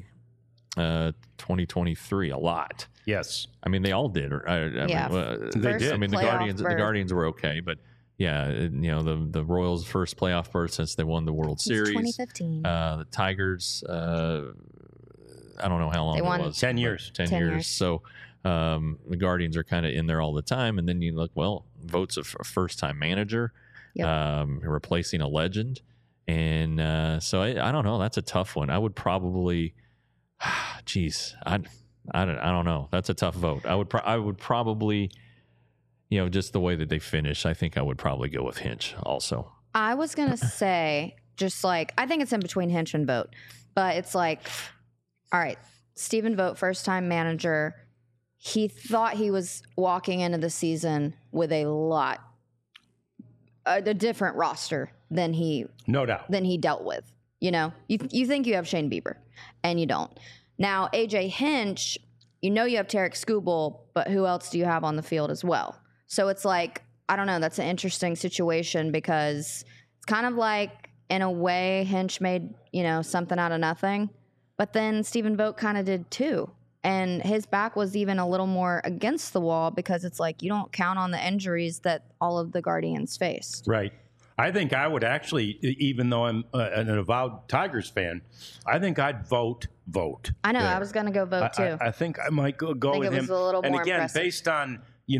2023? A lot. Yes. I mean, they all did. They did. I mean, the Guardians were okay, but yeah, the Royals' first playoff berth since they won the World Series. 2015. The Tigers, I don't know how long They won it was. 10 years. 10 years. So the Guardians are kind of in there all the time. And then you look, Vogt's a first-time manager, replacing a legend. And so I don't know. That's a tough one. I would probably, I don't know. That's a tough vote. I would probably, just the way that they finish, I think I would probably go with Hinch also. I was going to say, I think it's in between Hinch and Vogt, but it's like, all right, Stephen Vogt, first-time manager. He thought he was walking into the season with a different roster than he dealt with. You think you have Shane Bieber, and you don't. Now, AJ Hinch, you have Tarek Skubal, but who else do you have on the field as well? So it's like, I don't know, that's an interesting situation because it's kind of like, in a way, Hinch made, something out of nothing. But then Stephen Vogt kind of did too. And his back was even a little more against the wall because it's like you don't count on the injuries that all of the Guardians faced. Right. I think I would actually, even though I'm an avowed Tigers fan, I think I'd vote Vogt. I know. There. I was going to go Vogt too. I think I might go with him. It was a little and more again, impressive. based on,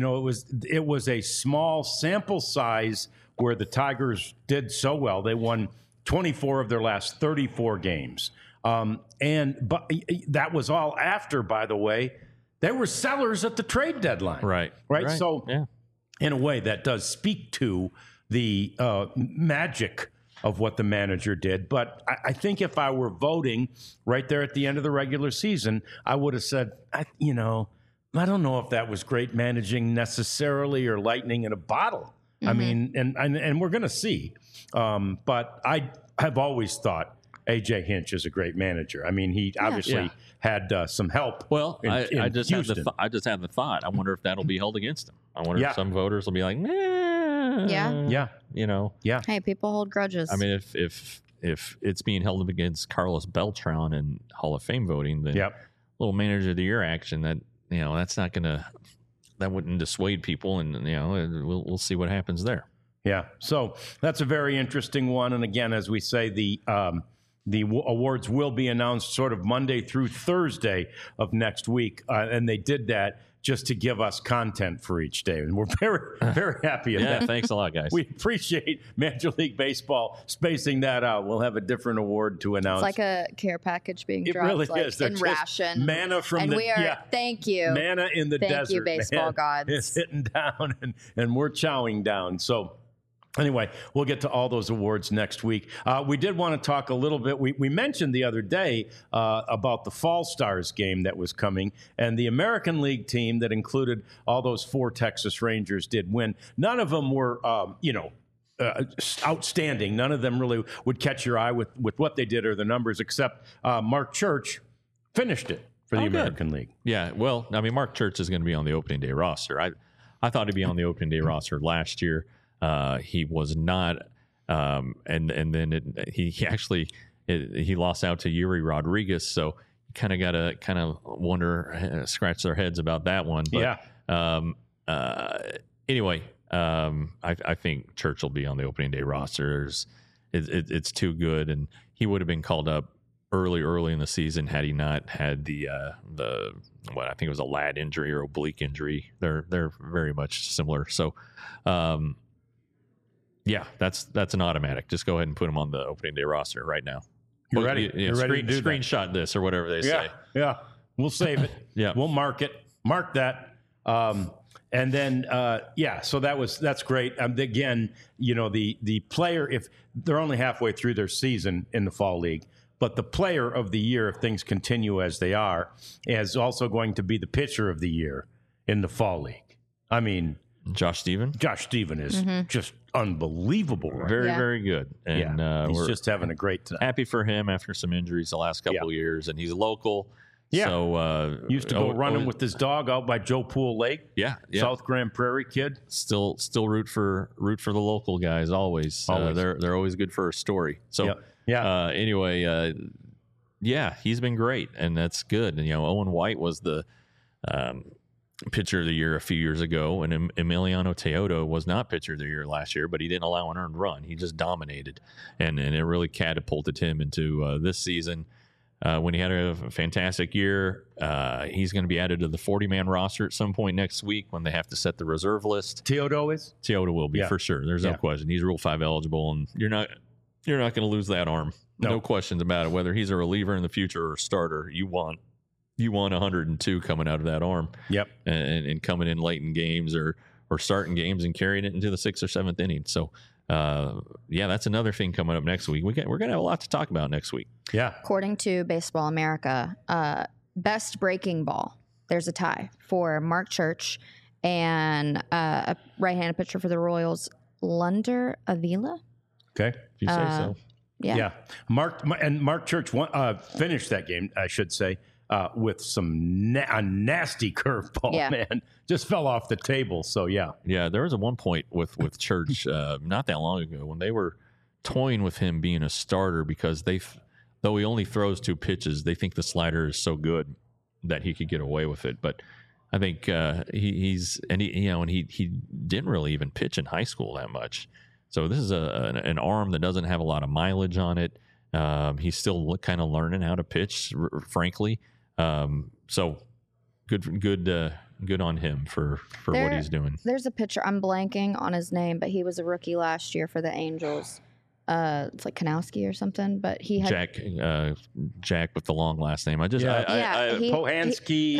it was a small sample size where the Tigers did so well. They won 24 of their last 34 games. But that was all after, by the way, they were sellers at the trade deadline. Right. So in a way that does speak to the magic of what the manager did. But I think if I were voting right there at the end of the regular season, I would have said, I don't know if that was great managing necessarily or lightning in a bottle. Mm-hmm. I mean, and we're going to see. But I have always thought AJ Hinch is a great manager. I mean, he obviously had some help. Well, I just had the thought. I wonder if that'll be held against him. I wonder if some voters will be like, Yeah. Yeah. Hey, people hold grudges. I mean, if it's being held against Carlos Beltran in Hall of Fame voting, then little manager of the year action that's not that wouldn't dissuade people, and we'll see what happens there. Yeah. So that's a very interesting one. And again, as we say, the awards will be announced sort of Monday through Thursday of next week. And they did that just to give us content for each day. And we're very, very happy about that. Yeah, thanks a lot, guys. We appreciate Major League Baseball spacing that out. We'll have a different award to announce. It's like a care package being dropped. It really is. In ration. Manna from thank you. Manna in the desert. Thank you, baseball gods. It's hitting down, and we're chowing down. So Anyway, we'll get to all those awards next week. We did want to talk a little bit. We mentioned the other day about the Fall Stars game that was coming, and the American League team that included all those 4 Texas Rangers did win. None of them were, outstanding. None of them really would catch your eye with what they did or the numbers, except Mark Church finished it for the American League. Yeah, well, I mean, Mark Church is going to be on the opening day roster. I thought he'd be on the opening day roster last year. He was not, and then he lost out to Yuri Rodriguez, so you kind of got to wonder, scratch their heads about that one. But, anyway, I think Church will be on the opening day roster. It's too good, and he would have been called up early in the season had he not had the what I think it was a lat injury or oblique injury. They're very much similar. So. Yeah, that's an automatic. Just go ahead and put him on the opening day roster right now. You're ready. You're ready to do screenshot this or whatever they say. Yeah, we'll save it. Yeah, we'll mark it. Mark that. And then, so that's great. Again, the player, if they're only halfway through their season in the Fall League, but the player of the year, if things continue as they are, is also going to be the pitcher of the year in the Fall League. I mean, Josh Stephen is just unbelievable. Very good. And he's just having a great time. Happy for him after some injuries the last couple of years, and he's local. Yeah. So used to go running with his dog out by Joe Pool Lake. Yeah. South Grand Prairie kid. Still root for the local guys always. They're always good for a story. So anyway, he's been great, and that's good. And Owen White was the pitcher of the year a few years ago, and Emiliano Teodo was not pitcher of the year last year, but he didn't allow an earned run. He just dominated, and it really catapulted him into this season. When he had a fantastic year, he's going to be added to the 40-man roster at some point next week when they have to set the reserve list. Teodo will be for sure. There's no question. He's Rule 5 eligible, and you're not going to lose that arm. No questions about it. Whether he's a reliever in the future or a starter, you want 102 coming out of that arm. Yep. And coming in late in games or starting games and carrying it into the 6th or 7th inning. So, that's another thing coming up next week. We're going to have a lot to talk about next week. Yeah. According to Baseball America, best breaking ball, there's a tie for Mark Church and a right-handed pitcher for the Royals, Lunder Avila. Okay. If you say so. Yeah. Mark Church finished that game, I should say. With some a nasty curveball, man, just fell off the table. So there was one point with Church not that long ago when they were toying with him being a starter because though he only throws 2 pitches, they think the slider is so good that he could get away with it. But I think he didn't really even pitch in high school that much. So this is an arm that doesn't have a lot of mileage on it. He's still kind of learning how to pitch, frankly. So good on him for what he's doing. There's a pitcher, I'm blanking on his name, but he was a rookie last year for the Angels. It's like Kanowski or something, but he had Jack with the long last name. Kohanski.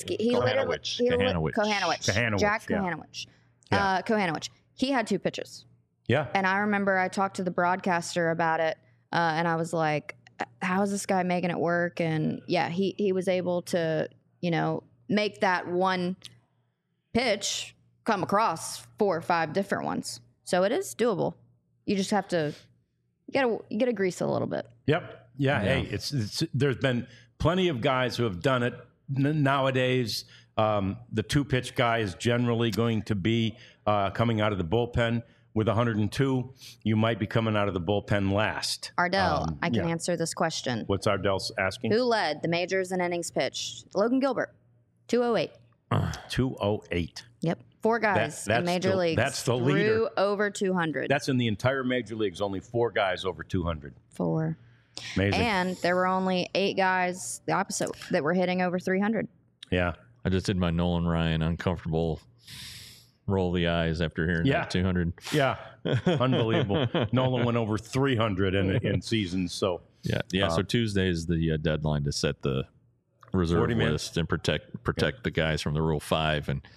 Kohanowicz. Jack Kohanowicz. Kohanowicz. He had 2 pitches. Yeah. And I remember I talked to the broadcaster about it, and I was like, how is this guy making it work? And he was able to, make that one pitch come across 4 or 5 different ones. So it is doable. You just have to, you gotta grease it a little bit. Yep. Yeah. Hey, it's there's been plenty of guys who have done it nowadays. The 2-pitch guy is generally going to be coming out of the bullpen. With 102, you might be coming out of the bullpen last. Ardell, I can answer this question. What's Ardell asking? Who led the majors in innings pitched? Logan Gilbert, 208. 208. Yep. 4 guys in major leagues. That's the leader. Over 200. That's in the entire major leagues. Only 4 guys over 200. 4. Amazing. And there were only 8 guys, the opposite, that were hitting over 300. Yeah. I just did my Nolan Ryan uncomfortable roll the eyes after hearing that 200. Yeah. Unbelievable. Nolan went over 300 in seasons. So so Tuesday is the deadline to set the reserve list and protect the guys from the Rule 5. And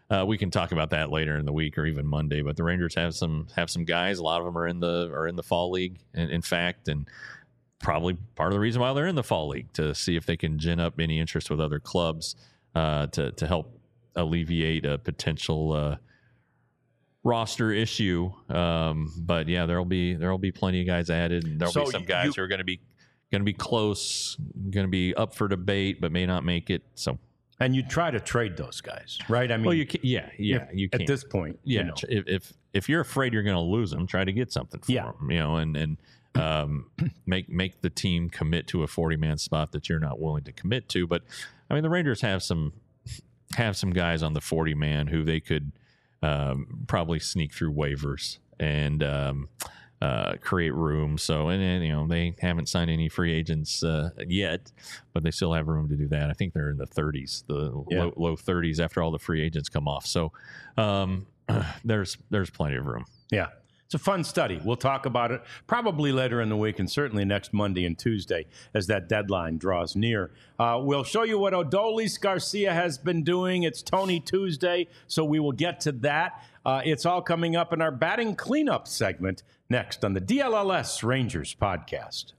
we can talk about that later in the week or even Monday. But the Rangers have some guys. A lot of them are in the fall league, in fact, and probably part of the reason why they're in the fall league, to see if they can gin up any interest with other clubs to help alleviate a potential roster issue. But yeah, there'll be plenty of guys added, and there'll be some guys who are going to be close, going to be up for debate, but may not make it. So. And you try to trade those guys, right? I mean, well, you can, you can at this point. Yeah, you know. if you're afraid you're going to lose them, try to get something for them. You know, and make the team commit to a 40-man spot that you're not willing to commit to. But I mean, the Rangers have some guys on the 40-man who they could probably sneak through waivers and create room. So, and you know, they haven't signed any free agents yet, but they still have room to do that. I think they're in the 30s, low 30s after all the free agents come off. So there's plenty of room. Yeah. It's a fun study. We'll talk about it probably later in the week, and certainly next Monday and Tuesday as that deadline draws near. We'll show you what Odolis Garcia has been doing. It's Tony Tuesday, so we will get to that. It's all coming up in our batting cleanup segment next on the DLLS Rangers podcast.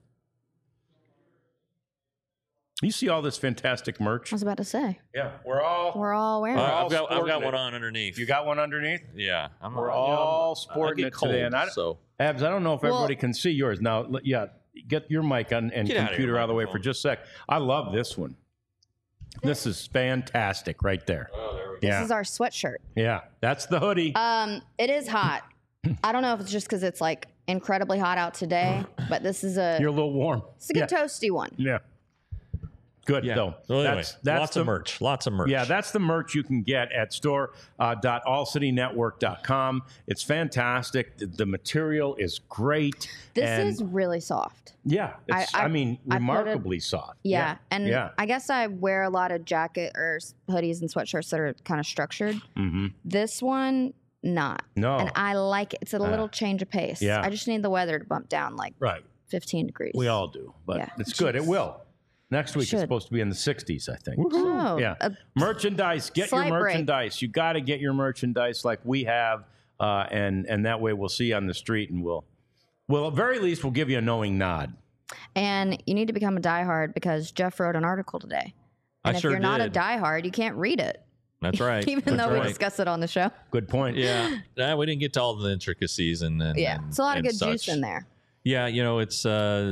You see all this fantastic merch? I was about to say. Yeah, we're all wearing it. I've got one on underneath. You got one underneath? Yeah, we're all sporting it today. And Abs, I don't know if everybody can see yours now. Yeah, get your mic on and computer out of the way for just a sec. I love this one. This is fantastic right there. Oh, there we go. This is our sweatshirt. Yeah, that's the hoodie. It is hot. I don't know if it's just because it's like incredibly hot out today, but this is You're a little warm. It's a good toasty one. Yeah. Good, though. Well, anyway, that's of merch. Lots of merch. Yeah, that's the merch you can get at store.allcitynetwork.com. It's fantastic. The material is great. This is really soft. Yeah. It's, I mean, remarkably soft. Yeah. And I guess I wear a lot of jacket or hoodies and sweatshirts that are kind of structured. Mm-hmm. This one, not. No. And I like it. It's a little change of pace. Yeah. I just need the weather to bump down like 15 degrees. We all do. But it's good. It will. Next week it's supposed to be in the 60s, I think. Oh, yeah. Merchandise. Get your merchandise. You got to get your merchandise like we have, and that way we'll see you on the street, and we'll at very least we'll give you a knowing nod. And you need to become a diehard because Jeff wrote an article today. And if you're not a diehard, you can't read it. That's right. Even though we discuss it on the show. Good point. Yeah. We didn't get to all the intricacies and it's a lot of good juice in there. Yeah, you know, it's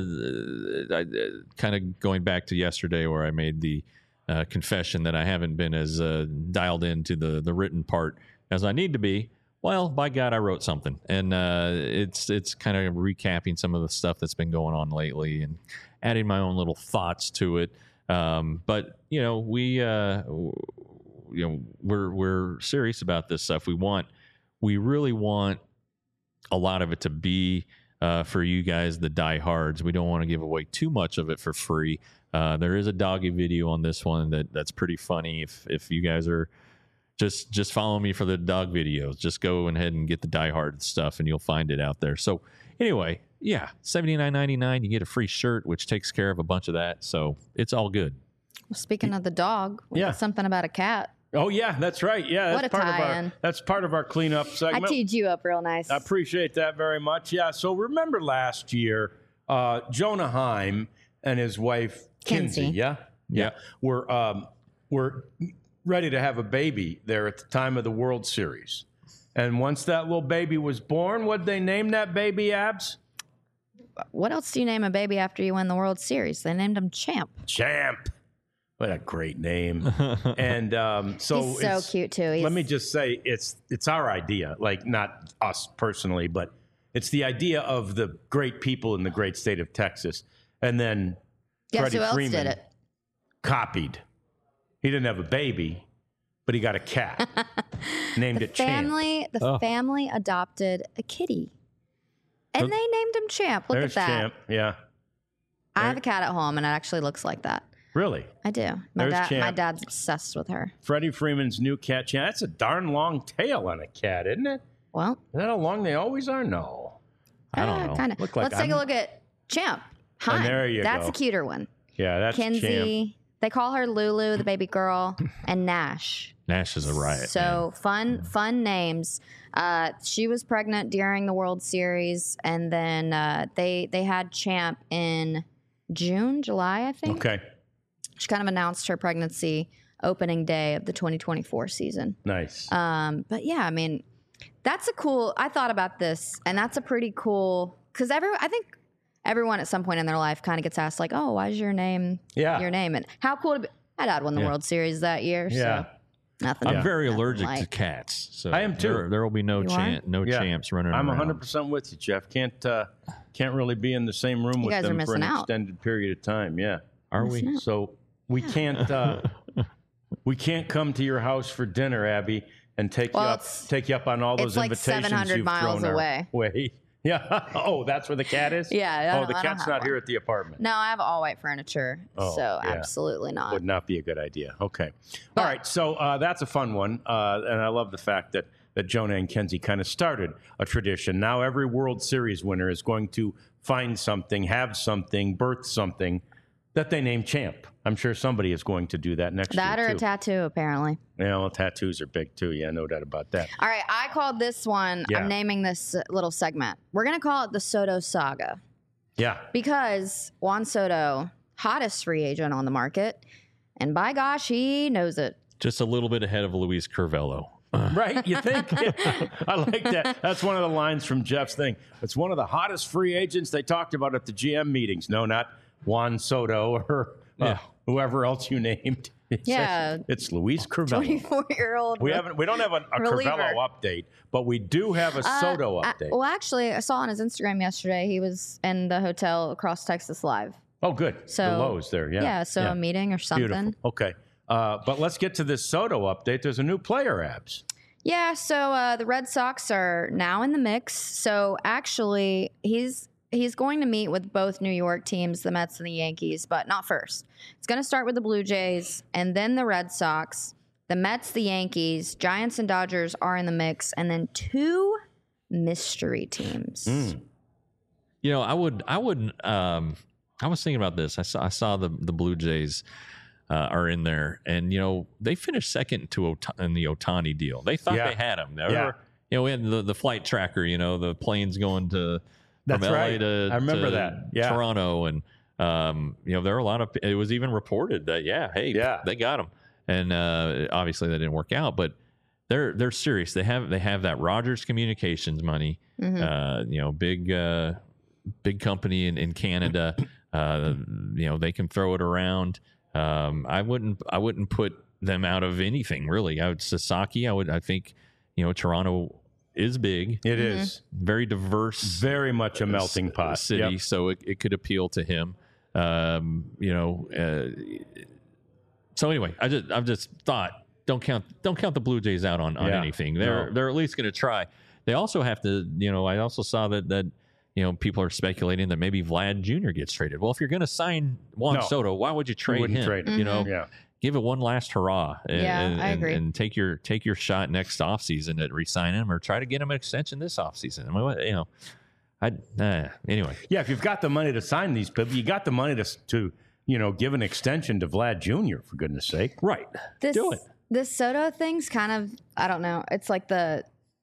kind of going back to yesterday where I made the confession that I haven't been as dialed into the written part as I need to be. Well, by God, I wrote something, and it's kind of recapping some of the stuff that's been going on lately and adding my own little thoughts to it. But you know, we're serious about this stuff. We really want a lot of it to be. For you guys, the diehards, we don't want to give away too much of it for free. There is a doggy video on this one that's pretty funny. If you guys are just follow me for the dog videos, just go ahead and get the diehard stuff, and you'll find it out there. So anyway, yeah, $79.99. You get a free shirt, which takes care of a bunch of that. So it's all good. Well, speaking of the dog, we got something about a cat. Oh yeah, that's right. Yeah, that's part of our cleanup segment. I teed you up real nice. I appreciate that very much. Yeah. So remember last year, Jonah Heim and his wife Kinsey. Yeah. Were ready to have a baby there at the time of the World Series, and once that little baby was born, what'd they name that baby, Abs? What else do you name a baby after you win the World Series? They named him Champ. Champ. What a great name. And so he's so cute too. Let me just say it's our idea, like not us personally, but it's the idea of the great people in the great state of Texas. And then Freddie Freeman did it? Copied. He didn't have a baby, but he got a cat. Named it Champ. The family adopted a kitty. And they named him Champ. Look at that. Champ, yeah. I have a cat at home and it actually looks like that. Really? I do. My dad's obsessed with her. Freddie Freeman's new cat, Champ. That's a darn long tail on a cat, isn't it? Well. Is that how long they always are? No. I don't know. Kind of. Let's take a look at Champ. Hi. There you go. That's a cuter one. Yeah, that's Kinsey. Champ. They call her Lulu, the baby girl, and Nash. Nash is a riot. So fun names. She was pregnant during the World Series, and then they had Champ in July, I think. Okay. She kind of announced her pregnancy opening day of the 2024 season. Nice. But yeah, I mean, I thought about this, and that's a pretty cool, because I think everyone at some point in their life kind of gets asked, like, oh, why is your name your name? And how cool to be. My dad won the World Series that year. Yeah. So nothing. I'm very nothing allergic like. to cats. So I am too. There will be no You are? champs running I'm around. 100% with you, Jeff. Can't really be in the same room with guys are them for an missing out. extended period of time. Yeah. Are we? So we can't come to your house for dinner, Abby, and take you up on all those it's like invitations 700 you've miles thrown away. our way. Yeah. Oh, that's where the cat is? Yeah. Oh, the cat's not here at the apartment. No, I have all white furniture, so yeah. absolutely not. Would not be a good idea. Okay. All right. So that's a fun one. And I love the fact that Jonah and Kenzie kind of started a tradition. Now every World Series winner is going to find something, have something, birth something that they name Champ. I'm sure somebody is going to do that next year, That or too. a tattoo, apparently. Yeah, well, tattoos are big, too. Yeah, no doubt about that. All right, I called this one, Yeah. I'm naming this little segment. We're going to call it the Soto Saga, Yeah. because Juan Soto, hottest free agent on the market, and by gosh, he knows it. Just a little bit ahead of Luis Curvelo. Right? You think? I like that. That's one of the lines from Jeff's thing. It's one of the hottest free agents they talked about at the GM meetings. No, not Juan Soto or whoever else you named. It's Luis Curvelo. 24-year-old. We don't have a reliever. Curvelo update, but we do have a Soto update. Well, actually, I saw on his Instagram yesterday he was in the hotel across Texas Live. Oh, good. So, the Lowe's there. Yeah. Yeah, so a meeting or something. Beautiful. Okay. But let's get to this Soto update. There's a new player, Abs. Yeah, so the Red Sox are now in the mix. So actually, he's going to meet with both New York teams, the Mets and the Yankees, but not first. It's going to start with the Blue Jays and then the Red Sox, the Mets, the Yankees, Giants and Dodgers are in the mix, and then 2 mystery teams. You know, I was thinking about this. I saw the Blue Jays are in there, and you know they finished second in the Ohtani deal. They thought they had him. You know, we had the flight tracker. You know, the planes going from LA right. to I remember that. Yeah. Toronto, and you know there are a lot of. It was even reported that they got him, and obviously that didn't work out, but. They're serious. They have that Rogers Communications money. You know, big company in Canada. You know, they can throw it around. I wouldn't put them out of anything really. Sasaki. I think you know Toronto is big. It is very diverse, very much a melting pot city. Yep. So it could appeal to him. You know. So anyway, I've just thought. Don't count the Blue Jays out on anything. They're at least going to try. They also have to, you know, I also saw that you know people are speculating that maybe Vlad Jr. gets traded. Well, if you're going to sign Juan Soto, why would you trade him? Trade him. You know, give it one last hurrah. I agree. And take your shot next offseason at re-signing him or try to get him an extension this offseason. I mean, you know, anyway. Yeah, if you've got the money to sign these people, you got the money to you know give an extension to Vlad Jr. for goodness sake. Right. Do it. This Soto thing's kind of, I don't know. It's like the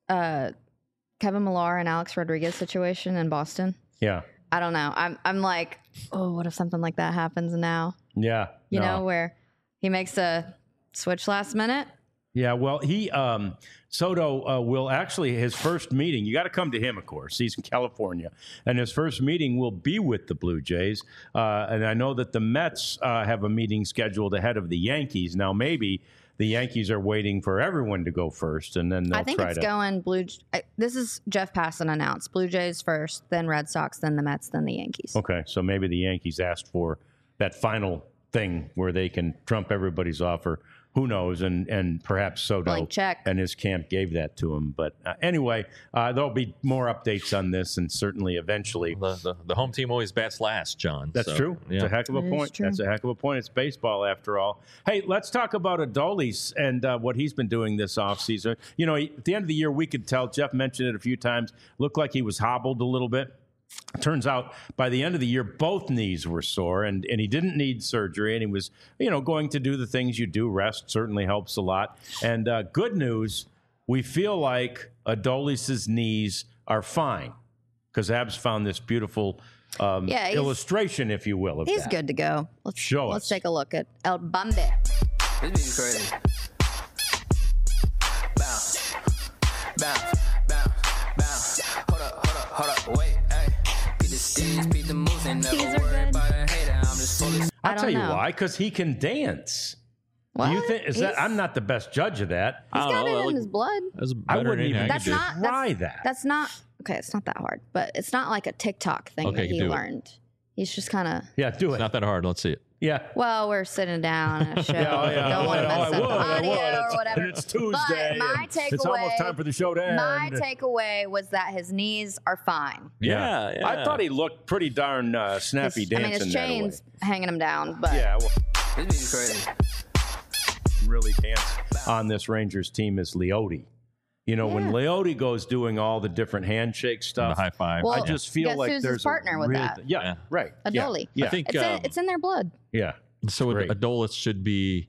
Kevin Millar and Alex Rodriguez situation in Boston. Yeah. I don't know. I'm like, oh, what if something like that happens now? Yeah. You know, where he makes a switch last minute? Yeah, well, he Soto will actually his first meeting. You got to come to him, of course. He's in California, and his first meeting will be with the Blue Jays. And I know that the Mets have a meeting scheduled ahead of the Yankees. Now, maybe the Yankees are waiting for everyone to go first, and then they'll I think try it's to. going Blue. This is Jeff Passan announced Blue Jays first, then Red Sox, then the Mets, then the Yankees. Okay, so maybe the Yankees asked for that final thing where they can trump everybody's offer. Who knows? And perhaps Soto Blank check. and his camp gave that to him. But anyway, there'll be more updates on this, and certainly eventually. The home team always bats last, John. That's true. Yeah. It's a heck of a point. That's a heck of a point. It's baseball after all. Hey, let's talk about Adolis and what he's been doing this offseason. You know, at the end of the year, we could tell, Jeff mentioned it a few times, looked like he was hobbled a little bit. Turns out by the end of the year, both knees were sore, and he didn't need surgery, and he was, going to do the things you do. Rest certainly helps a lot. And good news, we feel like Adolis's knees are fine, because Abs found this beautiful illustration, if you will, of He's that. good to go. Let's take a look at El Bambe. This be crazy. Bounce, bounce, bounce, bounce. Hold up, wait, hey. Beat the steeds, beat the moves, and never These are worry good. about a hater. I'm just fully. I I'll don't tell you know. why, because he can dance. What? Do you think I'm not the best judge of that. He's got it in his blood. That's I better wouldn't than even anything I That's could do. not try that. That's not okay. It's not that hard, but it's not like a TikTok thing Okay, that you he can do it. learned. He's just kind of. Yeah, do it. It's not that hard. Let's see it. Yeah. Well, we're sitting down on a show. Yeah, Don't want to mess up the audio It's, or whatever. and it's Tuesday. But my and takeaway. it's almost time for the show to end. My takeaway was that his knees are fine. Yeah. I thought he looked pretty darn snappy I dancing mean, his that chain's away. hanging him down, but Yeah, well, This be crazy. really dance on this Rangers team is Leote. When Leote goes doing all the different handshake The stuff, high five. Well, I just feel guess like who's his there's partner a with real that? Yeah, right. Adoli. Yeah, I think it's in their blood. yeah. so. great. Adolis should be.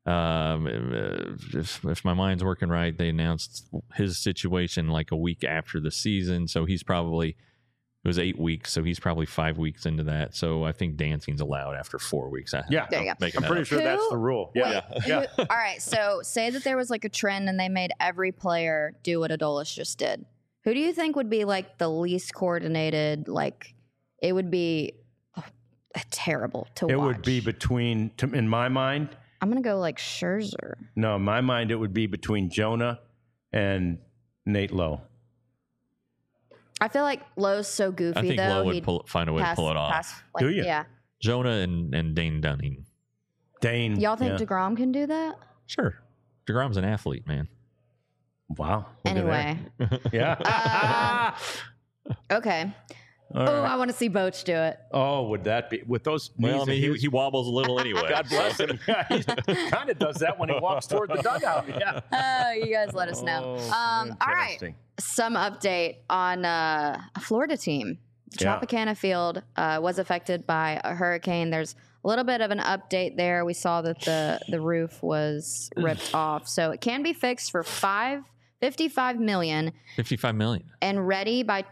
If my mind's working right, they announced his situation like a week after the season, so he's probably. It was 8 weeks, so he's probably 5 weeks into that. So I think dancing's allowed after 4 weeks. Yeah. There you go. Making I'm that pretty up. sure that's Who- the rule. Wait, Yeah. all right. So say that there was like a trend and they made every player do what Adolis just did. Who do you think would be like the least coordinated? Like it would be terrible to watch. It would be between, in my mind, I'm gonna go like Scherzer. no, in my mind, it would be between Jonah and Nate Lowe. I feel like Lowe's so goofy I think though. Lowe would he'd find a way to pull it off. like, Do you? Yeah. Jonah and Dane Dunning. Dane. Y'all think yeah. DeGrom can do that? Sure. DeGrom's an athlete, man. Wow. Look at Anyway. that. Yeah. Okay. All Oh, right. I want to see Boach do it. Oh, would that be with those knees? Well, I mean, he wobbles a little anyway. God bless him. Yeah, he kind of does that when he walks toward the dugout. Yeah. Oh, you guys let us know. Oh, All right. interesting. Some update on a Florida team. Yeah. Tropicana Field was affected by a hurricane. There's a little bit of an update there. We saw that the roof was ripped off. So it can be fixed for $55 million 55 million. and ready by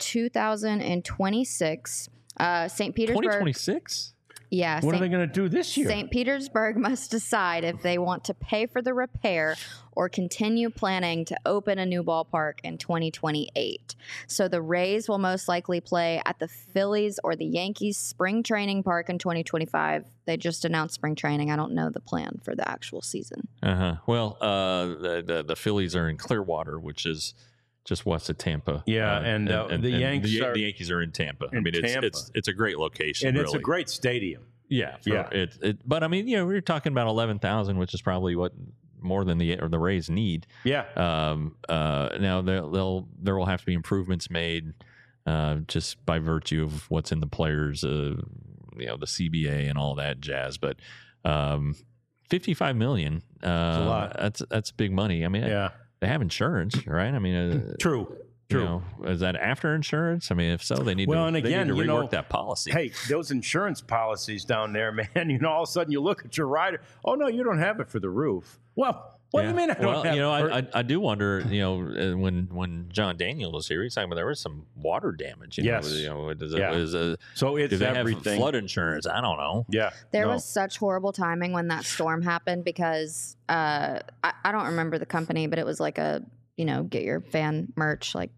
2026. St. Petersburg. 2026? Yeah. What are they going to do this year? St. Petersburg must decide if they want to pay for the repair or continue planning to open a new ballpark in 2028. So the Rays will most likely play at the Phillies or the Yankees spring training park in 2025. They just announced spring training. I don't know the plan for the actual season. Well, the Phillies are in Clearwater, which is just west of Tampa. Yeah, and the Yankees are the Yankees are in Tampa. I in mean, Tampa. it's a great location, and really. it's a great stadium. Yeah, Yeah. But I mean, we're talking about 11,000, which is probably what more than the Rays need. Yeah. Now there will have to be improvements made, just by virtue of what's in the players, the CBA and all that jazz. But 55 million, a lot. That's big money. I mean, Yeah. they have insurance, right? I mean, True. is that after insurance? I mean, if so, they need Well, to, and they need again, to you rework know, that policy. Hey, those insurance policies down there, man, all of a sudden you look at your rider. Oh, no, you don't have it for the roof. Well, what do you mean I don't have it? I do wonder, when John Daniel was here, he's talking about there was some water damage. Yes. So So do it's they everything. have flood insurance? I don't know. Yeah. There no. was such horrible timing when that storm happened because I don't remember the company, but it was like a, get your fan merch, like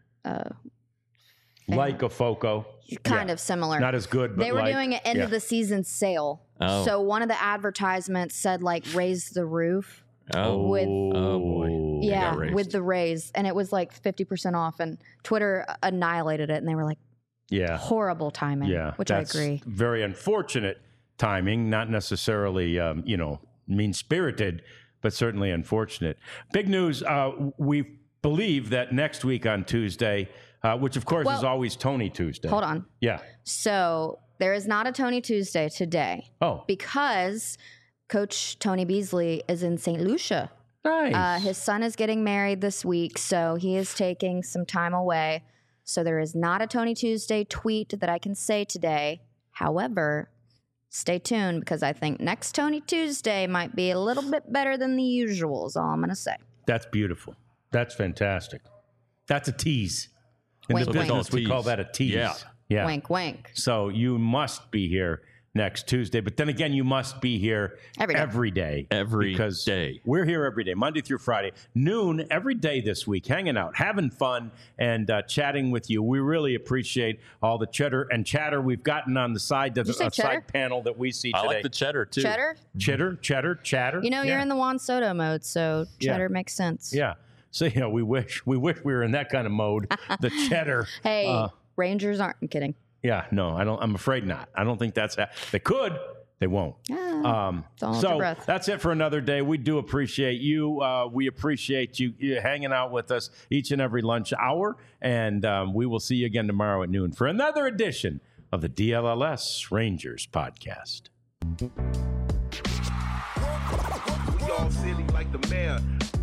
Like a Foco. kind of similar. Not as good, but They were like, doing an end of the season sale. Oh. So one of the advertisements said like raise the roof. Oh, With- oh boy. They Yeah, got raised. with the raise. And it was like 50% off and Twitter annihilated it and they were like Yeah. horrible timing. Yeah. Which that's I agree. Very unfortunate timing, not necessarily, mean-spirited, but certainly unfortunate. Big news. We believe that next week on Tuesday, which of course is Well, always Tony Tuesday. Hold on. Yeah. So there is not a Tony Tuesday today Oh, because Coach Tony Beasley is in St. Lucia. nice. His son is getting married this week, so he is taking some time away. So there is not a Tony Tuesday tweet that I can say today. However, stay tuned because I think next Tony Tuesday might be a little bit better than the usual is all I'm going to say. That's beautiful. That's fantastic. That's a tease. In Wink, the wink. business, we call that a tease. Yeah. Wink, wink. So you must be here next Tuesday. But then again, you must be here every day. Because we're here every day, Monday through Friday, noon every day this week, hanging out, having fun, and chatting with you. We really appreciate all the chatter we've gotten on the side side panel that we see today. I like the cheddar, too. Chatter. You know, you're in the Juan Soto mode, so cheddar makes sense. Yeah. So, we wish we were in that kind of mode. The cheddar. Hey, Rangers aren't. I'm kidding. Yeah, no, I don't. I'm afraid not. I don't think that's. They could. They won't. So that's it for another day. We do appreciate you. We appreciate you hanging out with us each and every lunch hour. And we will see you again tomorrow at noon for another edition of the DLLS Rangers podcast. We all silly like the mayor.